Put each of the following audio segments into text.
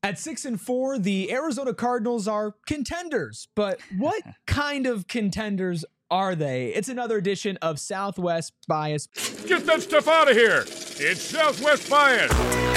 At 6-4, the Arizona Cardinals are contenders, but what kind of contenders are they? It's another edition of Southwest Bias. Get that stuff out of here. It's Southwest Bias.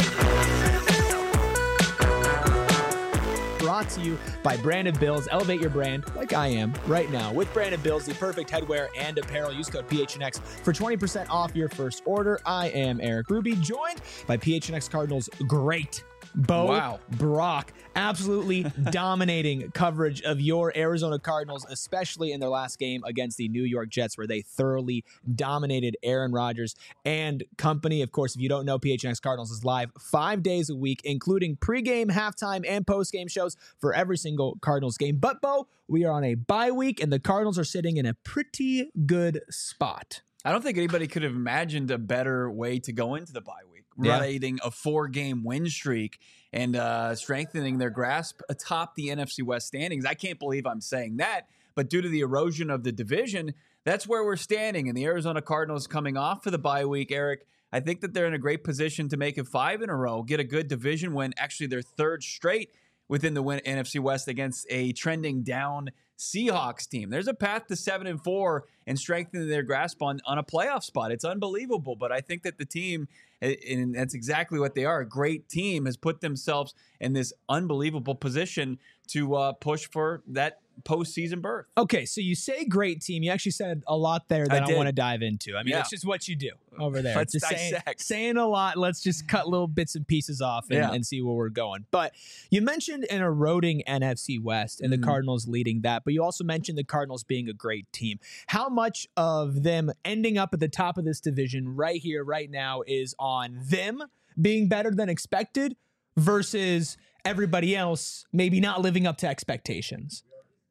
Brought to you by Branded Bills. Elevate your brand like I am right now with Branded Bills, the perfect headwear and apparel. Use code PHNX for 20% off your first order. I am Eric Ruby, joined by PHNX Cardinals great Bo Brock. Absolutely dominating coverage of your Arizona Cardinals, especially in their last game against the New York Jets, where they thoroughly dominated Aaron Rodgers and company. Of course, if you don't know, PHNX Cardinals is live 5 days a week, including pregame, halftime, and postgame shows for every single Cardinals game. But, Bo, we are on a bye week, and the Cardinals are sitting in a pretty good spot. I don't think anybody could have imagined a better way to go into the bye week. Riding a 4-game win streak and strengthening their grasp atop the NFC West standings. I can't believe I'm saying that, but due to the erosion of the division, that's where we're standing. And the Arizona Cardinals coming off for the bye week, Eric, I think that they're in a great position to make it 5 in a row, get a good division win, actually their third straight within the NFC West against a trending down Seahawks team. There's a path to 7-4 and strengthening their grasp on a playoff spot. It's unbelievable, but I think that the team, and that's exactly what they are, a great team, has put themselves in this unbelievable position to push for that postseason berth. Okay, so you say great team. You actually said a lot there that I want to dive into. I mean, that's just what you do over there. Let's just dissect. Saying a lot. Let's just cut little bits and pieces off and see where we're going. But you mentioned an eroding NFC West and the Cardinals leading that, but you also mentioned the Cardinals being a great team. How much of them ending up at the top of this division right here, right now, is on them being better than expected versus everybody else maybe not living up to expectations?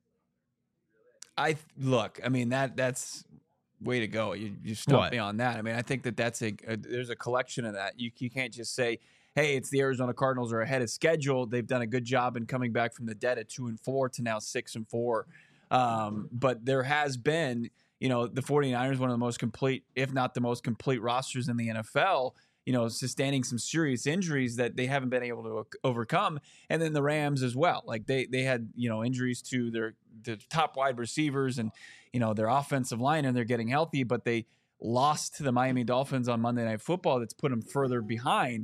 I mean, that's way to go. You stumped me on that. I mean, I think that's there's a collection of that. You can't just say, hey, it's the Arizona Cardinals are ahead of schedule. They've done a good job in coming back from the dead at 2-4 to now 6-4. But there has been, the 49ers, one of the most complete, if not the most complete rosters in the NFL, sustaining some serious injuries that they haven't been able to overcome. And then the Rams as well. Like they had, injuries to their top wide receivers and, their offensive line, and they're getting healthy, but they lost to the Miami Dolphins on Monday Night Football. That's put them further behind.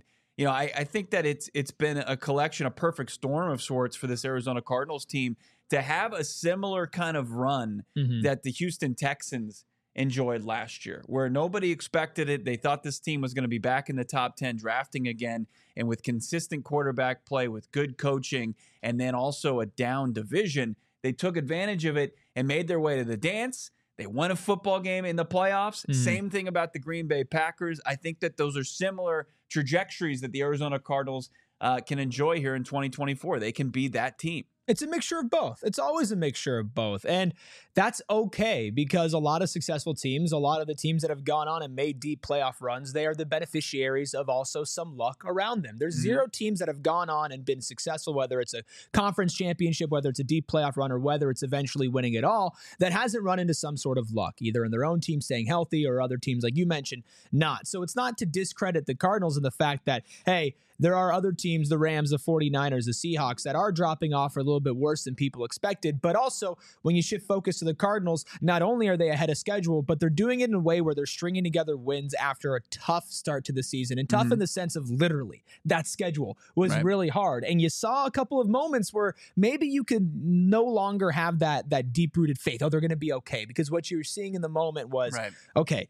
I think that it's been a collection, a perfect storm of sorts for this Arizona Cardinals team to have a similar kind of run that the Houston Texans enjoyed last year, where nobody expected it. They thought this team was going to be back in the top 10 drafting again, and with consistent quarterback play, with good coaching, and then also a down division, they took advantage of it and made their way to the dance. They won a football game in the playoffs. Same thing about the Green Bay Packers. I think that those are similar trajectories that the Arizona Cardinals can enjoy here in 2024. They can be that team. It's a mixture of both. It's always a mixture of both. And that's okay, because a lot of successful teams, a lot of the teams that have gone on and made deep playoff runs, they are the beneficiaries of also some luck around them. There's zero teams that have gone on and been successful, whether it's a conference championship, whether it's a deep playoff run, or whether it's eventually winning it all, that hasn't run into some sort of luck, either in their own team staying healthy or other teams, like you mentioned, not. So it's not to discredit the Cardinals and the fact that, hey, there are other teams, the Rams, the 49ers, the Seahawks, that are dropping off a little bit worse than people expected. But also, when you shift focus to the Cardinals, not only are they ahead of schedule, but they're doing it in a way where they're stringing together wins after a tough start to the season. And tough in the sense of literally, that schedule was really hard. And you saw a couple of moments where maybe you could no longer have that deep-rooted faith. Oh, they're going to be okay. Because what you were seeing in the moment was, okay,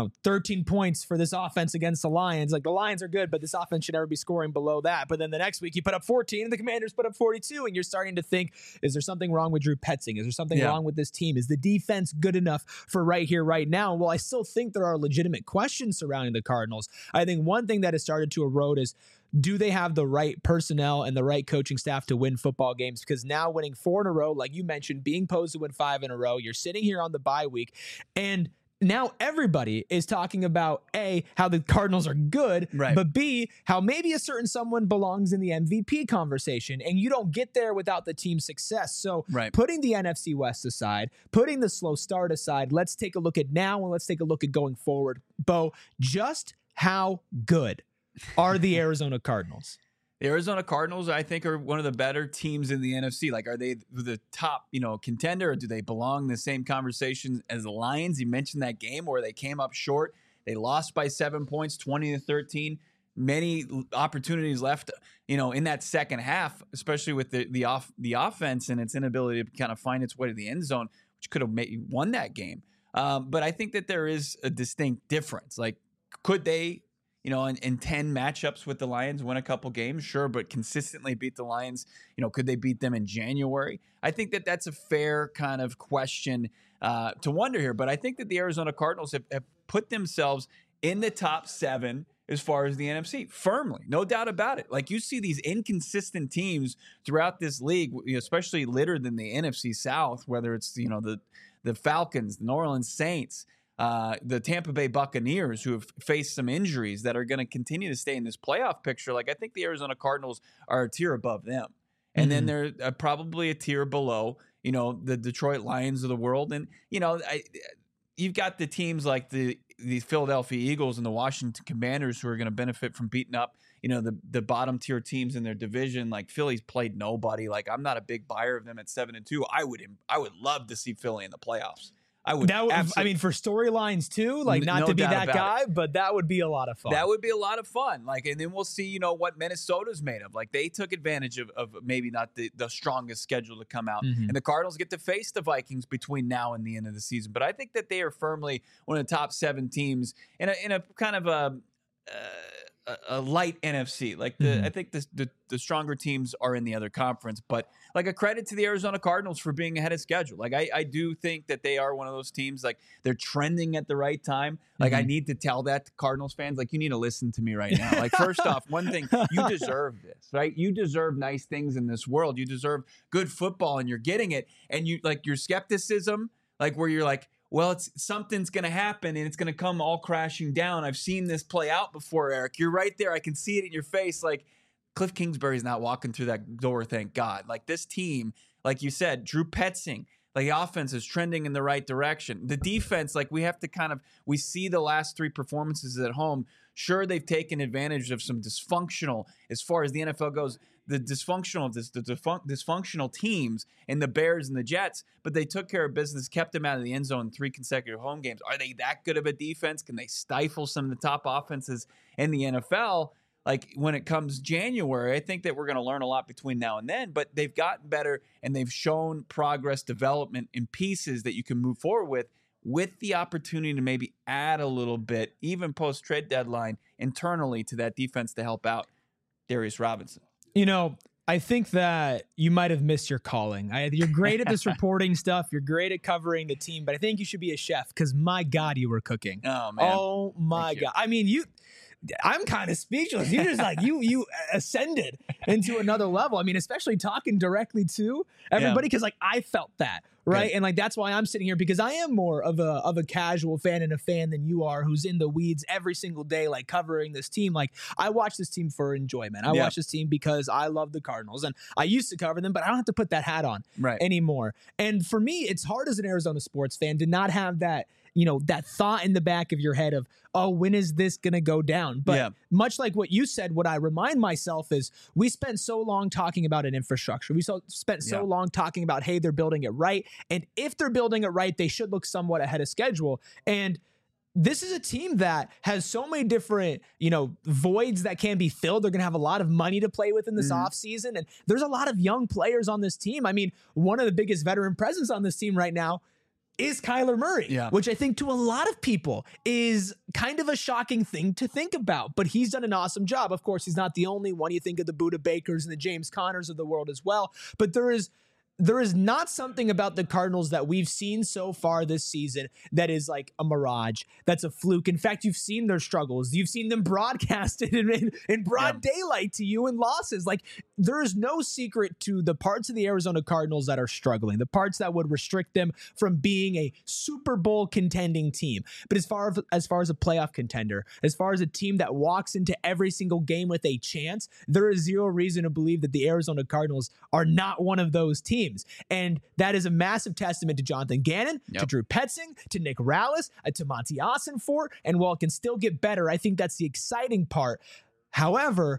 13 points for this offense against the Lions. Like, the Lions are good, but this offense should never be scoring below that. But then the next week you put up 14 and the Commanders put up 42, and you're starting to think, is there something wrong with Drew Petzing? Is there something wrong with this team? Is the defense good enough for right here, right now? Well, I still think there are legitimate questions surrounding the Cardinals. I think one thing that has started to erode is, do they have the right personnel and the right coaching staff to win football games? Because now winning 4 in a row, like you mentioned, being posed to win 5 in a row, you're sitting here on the bye week, and now everybody is talking about, A, how the Cardinals are good, but B, how maybe a certain someone belongs in the MVP conversation, and you don't get there without the team's success. So putting the NFC West aside, putting the slow start aside, let's take a look at now and let's take a look at going forward. Bo, just how good are the Arizona Cardinals? The Arizona Cardinals, I think, are one of the better teams in the NFC. Like, are they the top, contender, or do they belong in the same conversation as the Lions? You mentioned that game where they came up short. They lost by 7 points, 20-13. Many opportunities left, in that second half, especially with the offense and its inability to kind of find its way to the end zone, which could have won that game. But I think that there is a distinct difference. Like, could they, in 10 matchups with the Lions, win a couple games? Sure, but consistently beat the Lions, could they beat them in January? I think that that's a fair kind of question to wonder here. But I think that the Arizona Cardinals have put themselves in the top 7 as far as the NFC, firmly, no doubt about it. Like, you see these inconsistent teams throughout this league, especially littered in the NFC South, whether it's, the Falcons, the New Orleans Saints, the Tampa Bay Buccaneers, who have faced some injuries that are going to continue to stay in this playoff picture. Like, I think the Arizona Cardinals are a tier above them. And then they're probably a tier below, the Detroit Lions of the world. And, you've got the teams like the Philadelphia Eagles and the Washington Commanders who are going to benefit from beating up, the bottom tier teams in their division. Like, Philly's played nobody. Like, I'm not a big buyer of them at 7-2. I would love to see Philly in the playoffs. I mean, for storylines too, like, not to be that guy, but that would be a lot of fun. That would be a lot of fun. Like, and then we'll see, what Minnesota's made of. Like, they took advantage of maybe not the strongest schedule to come out. And the Cardinals get to face the Vikings between now and the end of the season. But I think that they are firmly one of the top 7 teams in a kind of a light NFC. Like, I think the stronger teams are in the other conference, but like, a credit to the Arizona Cardinals for being ahead of schedule. Like, I do think that they are one of those teams, like, they're trending at the right time. Like, I need to tell that to Cardinals fans, like, you need to listen to me right now. Like, first off, one thing, you deserve this, right? You deserve nice things in this world. You deserve good football, and you're getting it. And you, like, your skepticism, like, where you're like, well, something's going to happen and it's going to come all crashing down. I've seen this play out before, Eric. You're right there. I can see it in your face. Like, Cliff Kingsbury's not walking through that door, thank God. Like, this team, like you said, Drew Petzing, like, the offense is trending in the right direction. The defense, like, we see the last 3 performances at home. Sure, they've taken advantage of some dysfunctional, as far as the NFL goes, the dysfunctional teams and the Bears and the Jets, but they took care of business, kept them out of the end zone in 3 consecutive home games. Are they that good of a defense? Can they stifle some of the top offenses in the NFL? Like, when it comes January, I think that we're going to learn a lot between now and then, but they've gotten better and they've shown progress, development in pieces that you can move forward with the opportunity to maybe add a little bit, even post-trade deadline, internally to that defense to help out Darius Robinson. I think that you might have missed your calling. You're great at this reporting stuff. You're great at covering the team, but I think you should be a chef, because my God, you were cooking. Oh, man. Oh, my God. I mean, I'm kind of speechless. You just like, you ascended into another level. I mean, especially talking directly to everybody, because like, I felt that, right? Good. And like, that's why I'm sitting here, because I am more of a casual fan and a fan than you are, who's in the weeds every single day, like, covering this team. Like, I watch this team for enjoyment. I watch this team because I love the Cardinals, and I used to cover them, but I don't have to put that hat on anymore. And for me, it's hard as an Arizona sports fan to not have that, that thought in the back of your head of, oh, when is this going to go down? But much like what you said, what I remind myself is, we spent so long talking about an infrastructure. We spent so long talking about, hey, they're building it right. And if they're building it right, they should look somewhat ahead of schedule. And this is a team that has so many different, voids that can be filled. They're going to have a lot of money to play with in this offseason. And there's a lot of young players on this team. I mean, one of the biggest veteran presence on this team right now is Kyler Murray, which I think to a lot of people is kind of a shocking thing to think about, but he's done an awesome job. Of course, he's not the only one. You think of the Budda Bakers and the James Connors of the world as well, but there is not something about the Cardinals that we've seen so far this season that is like a mirage, that's a fluke. In fact, you've seen their struggles. You've seen them broadcasted in broad daylight to you in losses. Like, there is no secret to the parts of the Arizona Cardinals that are struggling, the parts that would restrict them from being a Super Bowl contending team. But as far as a playoff contender, as far as a team that walks into every single game with a chance, there is zero reason to believe that the Arizona Cardinals are not one of those teams. And that is a massive testament to Jonathan Gannon, to Drew Petzing, to Nick Rallis, to Monty Ossenfort. And while it can still get better, I think that's the exciting part. However,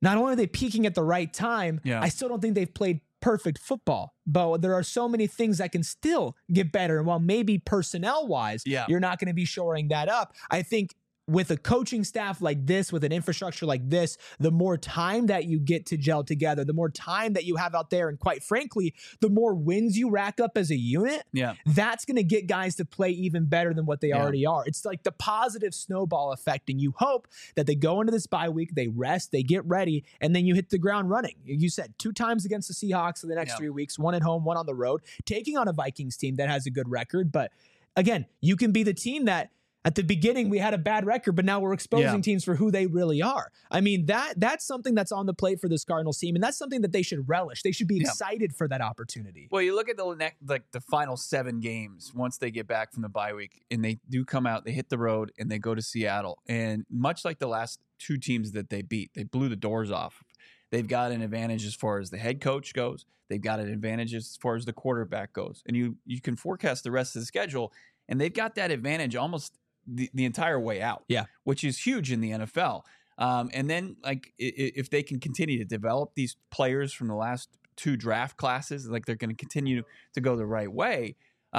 not only are they peaking at the right time, I still don't think they've played perfect football. But there are so many things that can still get better. And while maybe personnel-wise, you're not going to be shoring that up, I think with a coaching staff like this, with an infrastructure like this, the more time that you get to gel together, the more time that you have out there, and quite frankly, the more wins you rack up as a unit, that's going to get guys to play even better than what they already are. It's like the positive snowball effect, and you hope that they go into this bye week, they rest, they get ready, and then you hit the ground running. You said 2 times against the Seahawks in the next 3 weeks, 1 at home, 1 on the road, taking on a Vikings team that has a good record. But again, you can be the team that at the beginning, we had a bad record, but now we're exposing teams for who they really are. I mean, that's something that's on the plate for this Cardinals team, and that's something that they should relish. They should be excited for that opportunity. Well, you look at the final 7 games once they get back from the bye week, and they do come out, they hit the road, and they go to Seattle. And much like the last 2 teams that they beat, they blew the doors off. They've got an advantage as far as the head coach goes. They've got an advantage as far as the quarterback goes. And you can forecast the rest of the schedule, and they've got that advantage almost the entire way out, which is huge in the NFL. And then, like, if they can continue to develop these players from the last 2 draft classes, like, they're going to continue to go the right way.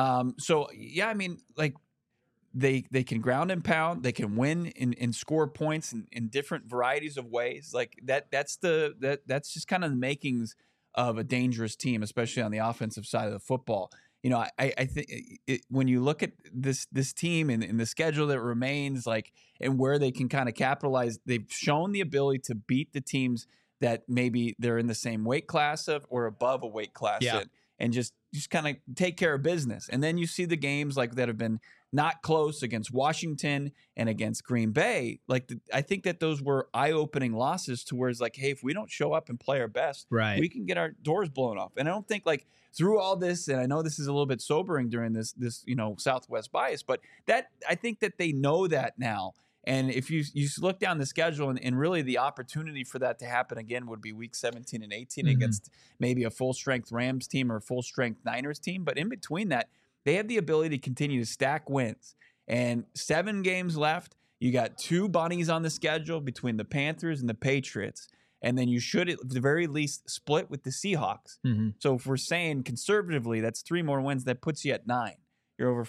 So, I mean, like, they can ground and pound, they can win and score points in different varieties of ways. Like, that's just kind of the makings of a dangerous team, especially on the offensive side of the football. You know, I think when you look at this team and the schedule that remains, like, and where they can kind of capitalize, they've shown the ability to beat the teams that maybe they're in the same weight class of or above a weight class in, and just kind of take care of business. And then you see the games like that have been not close against Washington and against Green Bay. Like, I think that those were eye-opening losses to where it's like, hey, if we don't show up and play our best, we can get our doors blown off. And I don't think, like, through all this, and I know this is a little bit sobering during this Southwest bias, but that I think that they know that now. And if you look down the schedule, and really the opportunity for that to happen again would be week 17 and 18 against maybe a full-strength Rams team or a full-strength Niners team. But in between that, they have the ability to continue to stack wins. And 7 games left. You got 2 bunnies on the schedule between the Panthers and the Patriots. And then you should, at the very least, split with the Seahawks. So if we're saying conservatively, that's 3 more wins. That puts you at 9. You're over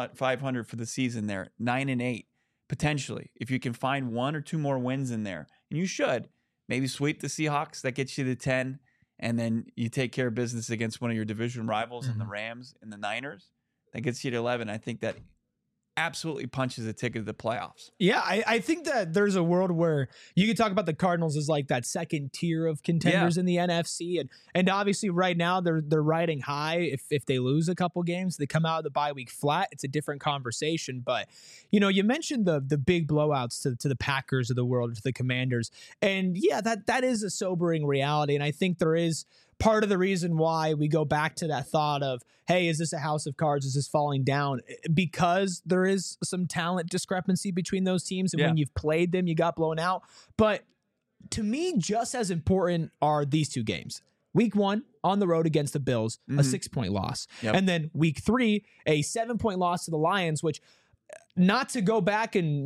500 for the season there, 9-8 potentially. If you can find 1 or 2 more wins in there, and you should maybe sweep the Seahawks, that gets you to 10, and then you take care of business against one of your division rivals in the Rams and the Niners. That gets you to 11. I think that absolutely punches a ticket to the playoffs. Yeah, I think that there's a world where you could talk about the Cardinals as like that second tier of contenders in the NFC, and obviously right now they're riding high. If they lose a couple games, they come out of the bye week flat. It's a different conversation. But you know, you mentioned the big blowouts to the Packers of the world, to the Commanders, and yeah, that is a sobering reality. And I think there is part of the reason why we go back to that thought of, hey, is this a house of cards? Is this falling down? Because there is some talent discrepancy between those teams. And when you've played them, you got blown out. But to me, just as important are these 2 games. Week 1 on the road against the Bills, a 6-point loss. And then week 3, a 7-point loss to the Lions, which, not to go back and,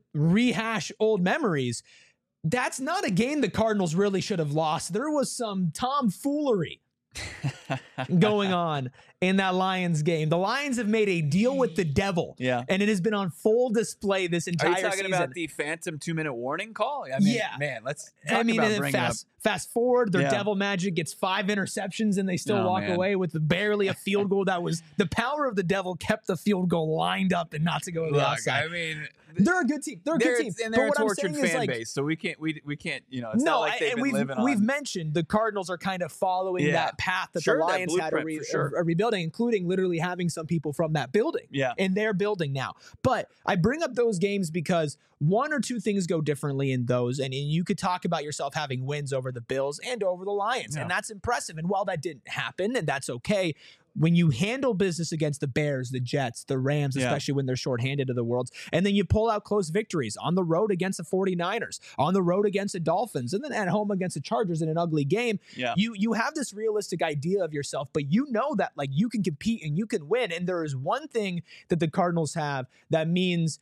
rehash old memories, that's not a game the Cardinals really should have lost. There was some tomfoolery going on in that Lions game. The Lions have made a deal with the devil, and it has been on full display this entire season. Are you talking about the phantom 2-minute warning call? I mean, man, let's talk about bringing up. Fast forward, their devil magic gets 5 interceptions, and they still walk away with barely a field goal. That was the power of the devil, kept the field goal lined up and not to go to the outside. I mean, they're a good team. They're a good team. And they're a tortured fan base, so we can't. It's not like they've been living on. We've mentioned the Cardinals are kind of following that path that the Lions had a rebuilding, including literally having some people from that building in their building now. But I bring up those games because 1 or 2 things go differently in those, and you could talk about yourself having wins over the Bills and over the Lions, and that's impressive. And while that didn't happen, and that's okay, when you handle business against the Bears, the Jets, the Rams, especially when they're shorthanded to the worlds, and then you pull out close victories on the road against the 49ers, on the road against the Dolphins, and then at home against the Chargers in an ugly game, you have this realistic idea of yourself, but you know that like you can compete and you can win. And there is one thing that the Cardinals have that means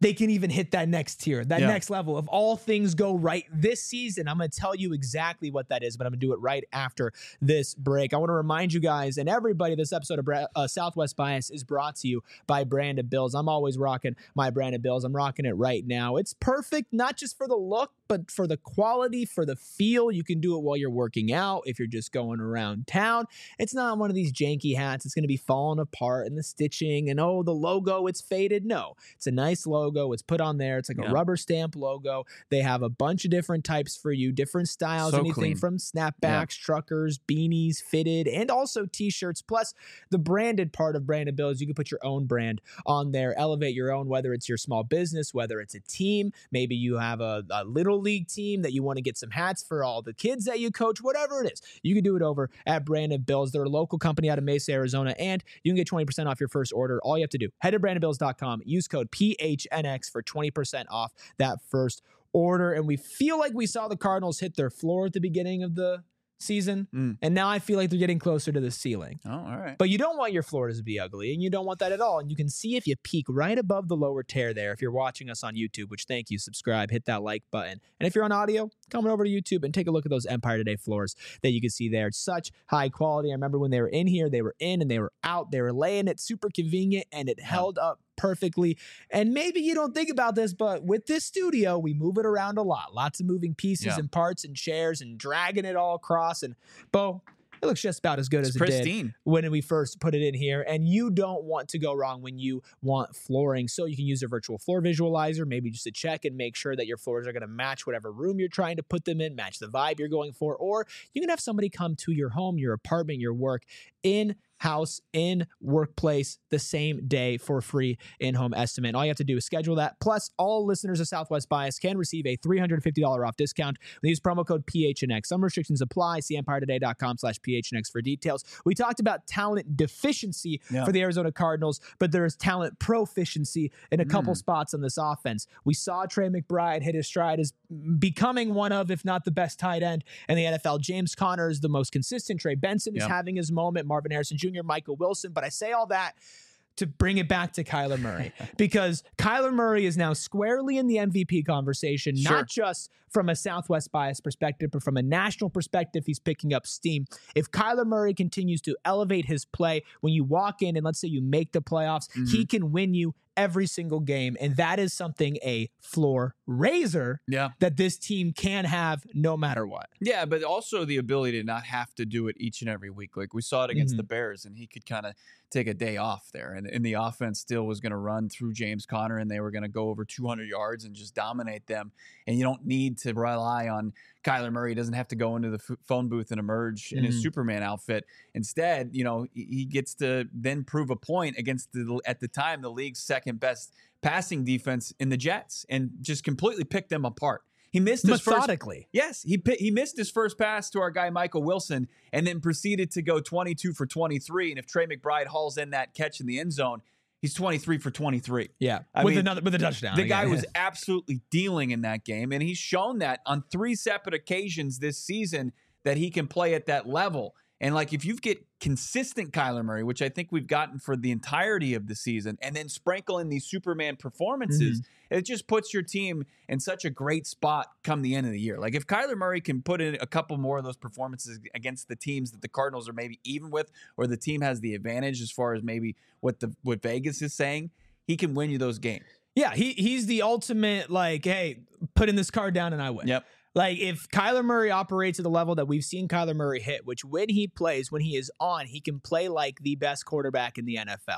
they can even hit that next tier, that next level. If all things go right this season, I'm going to tell you exactly what that is, but I'm going to do it right after this break. I want to remind you guys and everybody, this episode of Southwest Bias is brought to you by Branded Bills. I'm always rocking my Branded Bills. I'm rocking it right now. It's perfect, not just for the look, but for the quality, for the feel. You can do it while you're working out, if you're just going around town. It's not one of these janky hats. It's going to be falling apart and the stitching and, oh, the logo, it's faded. No, it's a nice logo. It's put on there. It's like a rubber stamp logo. They have a bunch of different types for you, different styles, so anything clean. from snapbacks, truckers, beanies, fitted, and also t-shirts. Plus the branded part of Branded Bills. You can put your own brand on there, elevate your own, whether it's your small business, whether it's a team. Maybe you have a little league team that you want to get some hats for all the kids that you coach, whatever it is. You can do it over at Branded Bills. They're a local company out of Mesa, Arizona, and you can get 20% off your first order. All you have to do, head to brandedbills.com, use code PHNX for 20% off that first order. And we feel like we saw the Cardinals hit their floor at the beginning of the season, and now I feel like they're getting closer to the ceiling. Oh, all right. But you don't want your floors to be ugly, and you don't want that at all. And you can see if you peek right above the lower tear there. If you're watching us on YouTube, which thank you, subscribe, hit that like button. And if you're on audio, come on over to YouTube and take a look at those Empire Today floors that you can see there. It's such high quality. I remember when they were in here, they were in and they were out. They were laying it super convenient, and it held up perfectly. And maybe you don't think about this, but with this studio, we move it around a lot. Lots of moving pieces and parts and chairs and dragging it all across. And Bo, it looks just about as good as it did when we first put it in here. And you don't want to go wrong when you want flooring. So you can use a virtual floor visualizer, maybe just to check and make sure that your floors are going to match whatever room you're trying to put them in, match the vibe you're going for. Or you can have somebody come to your home, your apartment, your work, in-house, in workplace the same day for free in-home estimate. All you have to do is schedule that. Plus, all listeners of Southwest Bias can receive a $350 off discount. We use promo code PHNX. Some restrictions apply. See EmpireToday.com/PHNX for details. We talked about talent deficiency for the Arizona Cardinals, but there is talent proficiency in a couple spots on this offense. We saw Trey McBride hit his stride as becoming one of, if not the best tight end in the NFL. James Conner is the most consistent. Trey Benson is having his moment. Marvin Harrison Jr., Michael Wilson. But I say all that to bring it back to Kyler Murray, because Kyler Murray is now squarely in the MVP conversation, not just from a Southwest Bias perspective, but from a national perspective. He's picking up steam. If Kyler Murray continues to elevate his play, when you walk in and let's say you make the playoffs, he can win you every single game. And that is something, a floor raiser that this team can have no matter what. Yeah, but also the ability to not have to do it each and every week. Like we saw it against the Bears, and he could kind of take a day off there. And the offense still was going to run through James Conner, and they were going to go over 200 yards and just dominate them. And you don't need to rely on Kyler Murray. He doesn't have to go into the phone booth and emerge in his Superman outfit. Instead, you know, he gets to then prove a point against at the time, the league's second best passing defense in the Jets, and just completely pick them apart. He missed his methodically. He missed his first pass to our guy Michael Wilson, and then proceeded to go 22 for 23. And if Trey McBride hauls in that catch in the end zone, he's 23 for 23. Yeah, with a touchdown. The guy was absolutely dealing in that game, and he's shown that on 3 separate occasions this season that he can play at that level. And like if you get consistent Kyler Murray, which I think we've gotten for the entirety of the season, and then sprinkle in these Superman performances, it just puts your team in such a great spot come the end of the year. Like if Kyler Murray can put in a couple more of those performances against the teams that the Cardinals are maybe even with, or the team has the advantage as far as maybe what Vegas is saying, he can win you those games. Yeah, he's the ultimate, like, hey, putting this card down and I win. Yep. Like if Kyler Murray operates at the level that we've seen Kyler Murray hit, which when he plays, when he is on, he can play like the best quarterback in the NFL.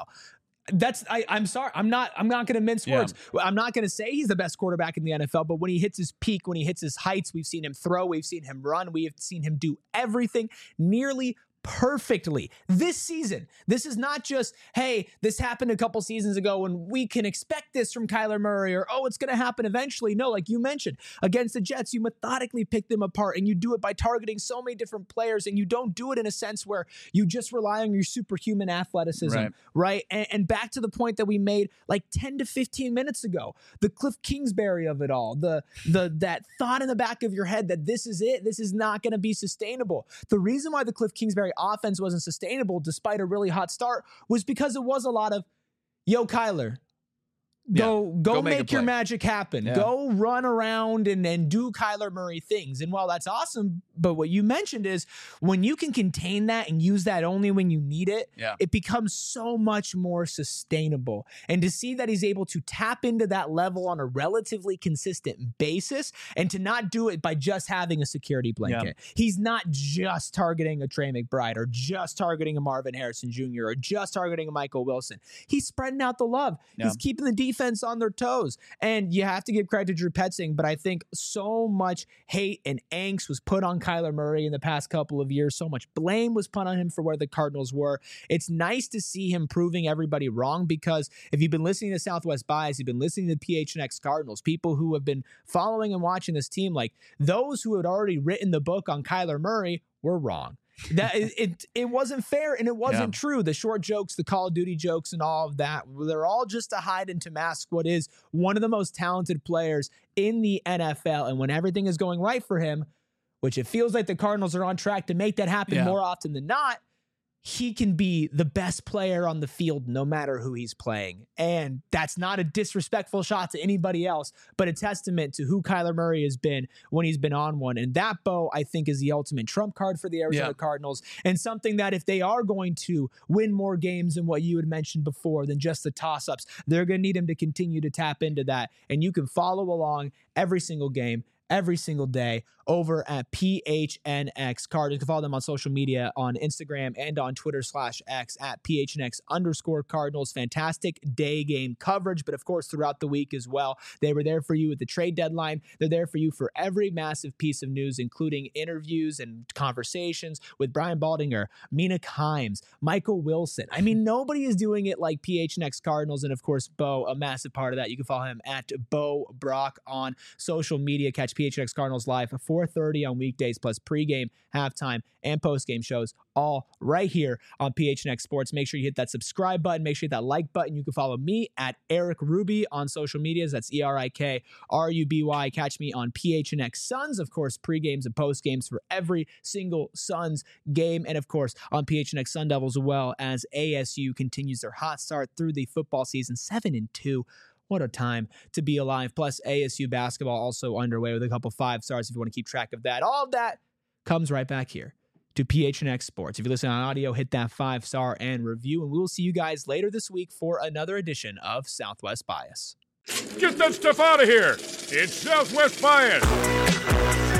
I'm sorry. I'm not going to mince words. I'm not going to say he's the best quarterback in the NFL, but when he hits his peak, when he hits his heights, we've seen him throw, we've seen him run, we have seen him do everything nearly perfectly this season. This is not just, hey, this happened a couple seasons ago and we can expect this from Kyler Murray, or, oh, it's going to happen eventually. No, like you mentioned, against the Jets, you methodically pick them apart, and you do it by targeting so many different players, and you don't do it in a sense where you just rely on your superhuman athleticism, right? And back to the point that we made like 10 to 15 minutes ago, the Cliff Kingsbury of it all, that thought in the back of your head that this is it, this is not going to be sustainable. The reason why the Cliff Kingsbury offense wasn't sustainable despite a really hot start was because it was a lot of, yo, Kyler, Go make your play. magic happen. Yeah. Go run around and do Kyler Murray things. And while that's awesome, but what you mentioned is when you can contain that and use that only when you need it, it becomes so much more sustainable. And to see that he's able to tap into that level on a relatively consistent basis and to not do it by just having a security blanket. He's not just targeting a Trey McBride or just targeting a Marvin Harrison Jr. or just targeting a Michael Wilson. He's spreading out the love. He's keeping the defense on their toes. And you have to give credit to Drew Petzing, but I think so much hate and angst was put on Kyler Murray in the past couple of years. So much blame was put on him for where the Cardinals were. It's nice to see him proving everybody wrong, because if you've been listening to Southwest Bias, you've been listening to PHNX Cardinals, people who have been following and watching this team, like those who had already written the book on Kyler Murray were wrong. That it wasn't fair and it wasn't true. The short jokes, the Call of Duty jokes and all of that, they're all just to hide and to mask what is one of the most talented players in the NFL. And when everything is going right for him, which it feels like the Cardinals are on track to make that happen more often than not, he can be the best player on the field no matter who he's playing. And that's not a disrespectful shot to anybody else, but a testament to who Kyler Murray has been when he's been on one. And that, Bo, I think is the ultimate trump card for the Arizona Cardinals, and something that if they are going to win more games than what you had mentioned before than just the toss-ups, they're going to need him to continue to tap into that. And you can follow along every single game, every single day over at PHNX Cardinals. You can follow them on social media on Instagram and on Twitter /X at PHNX_Cardinals. Fantastic day game coverage, but of course throughout the week as well. They were there for you at the trade deadline. They're there for you for every massive piece of news, including interviews and conversations with Brian Baldinger, Mina Kimes, Michael Wilson. I mean, nobody is doing it like PHNX Cardinals. And of course, Bo, a massive part of that. You can follow him at Bo Brock on social media. Catch PHNX Cardinals live at 4:30 on weekdays, plus pregame, halftime, and postgame shows, all right here on PHNX Sports. Make sure you hit that subscribe button. Make sure you hit that like button. You can follow me at Eric Ruby on social medias. That's ERIKRUBY. Catch me on PHNX Suns, of course, pregames and postgames for every single Suns game. And of course, on PHNX Sun Devils, as well as ASU continues their hot start through the football season, 7-2. What a time to be alive. Plus, ASU basketball also underway with a couple 5 stars if you want to keep track of that. All of that comes right back here to PHNX Sports. If you listen on audio, hit that 5-star and review, and we will see you guys later this week for another edition of Southwest Bias. Get that stuff out of here. It's Southwest Bias.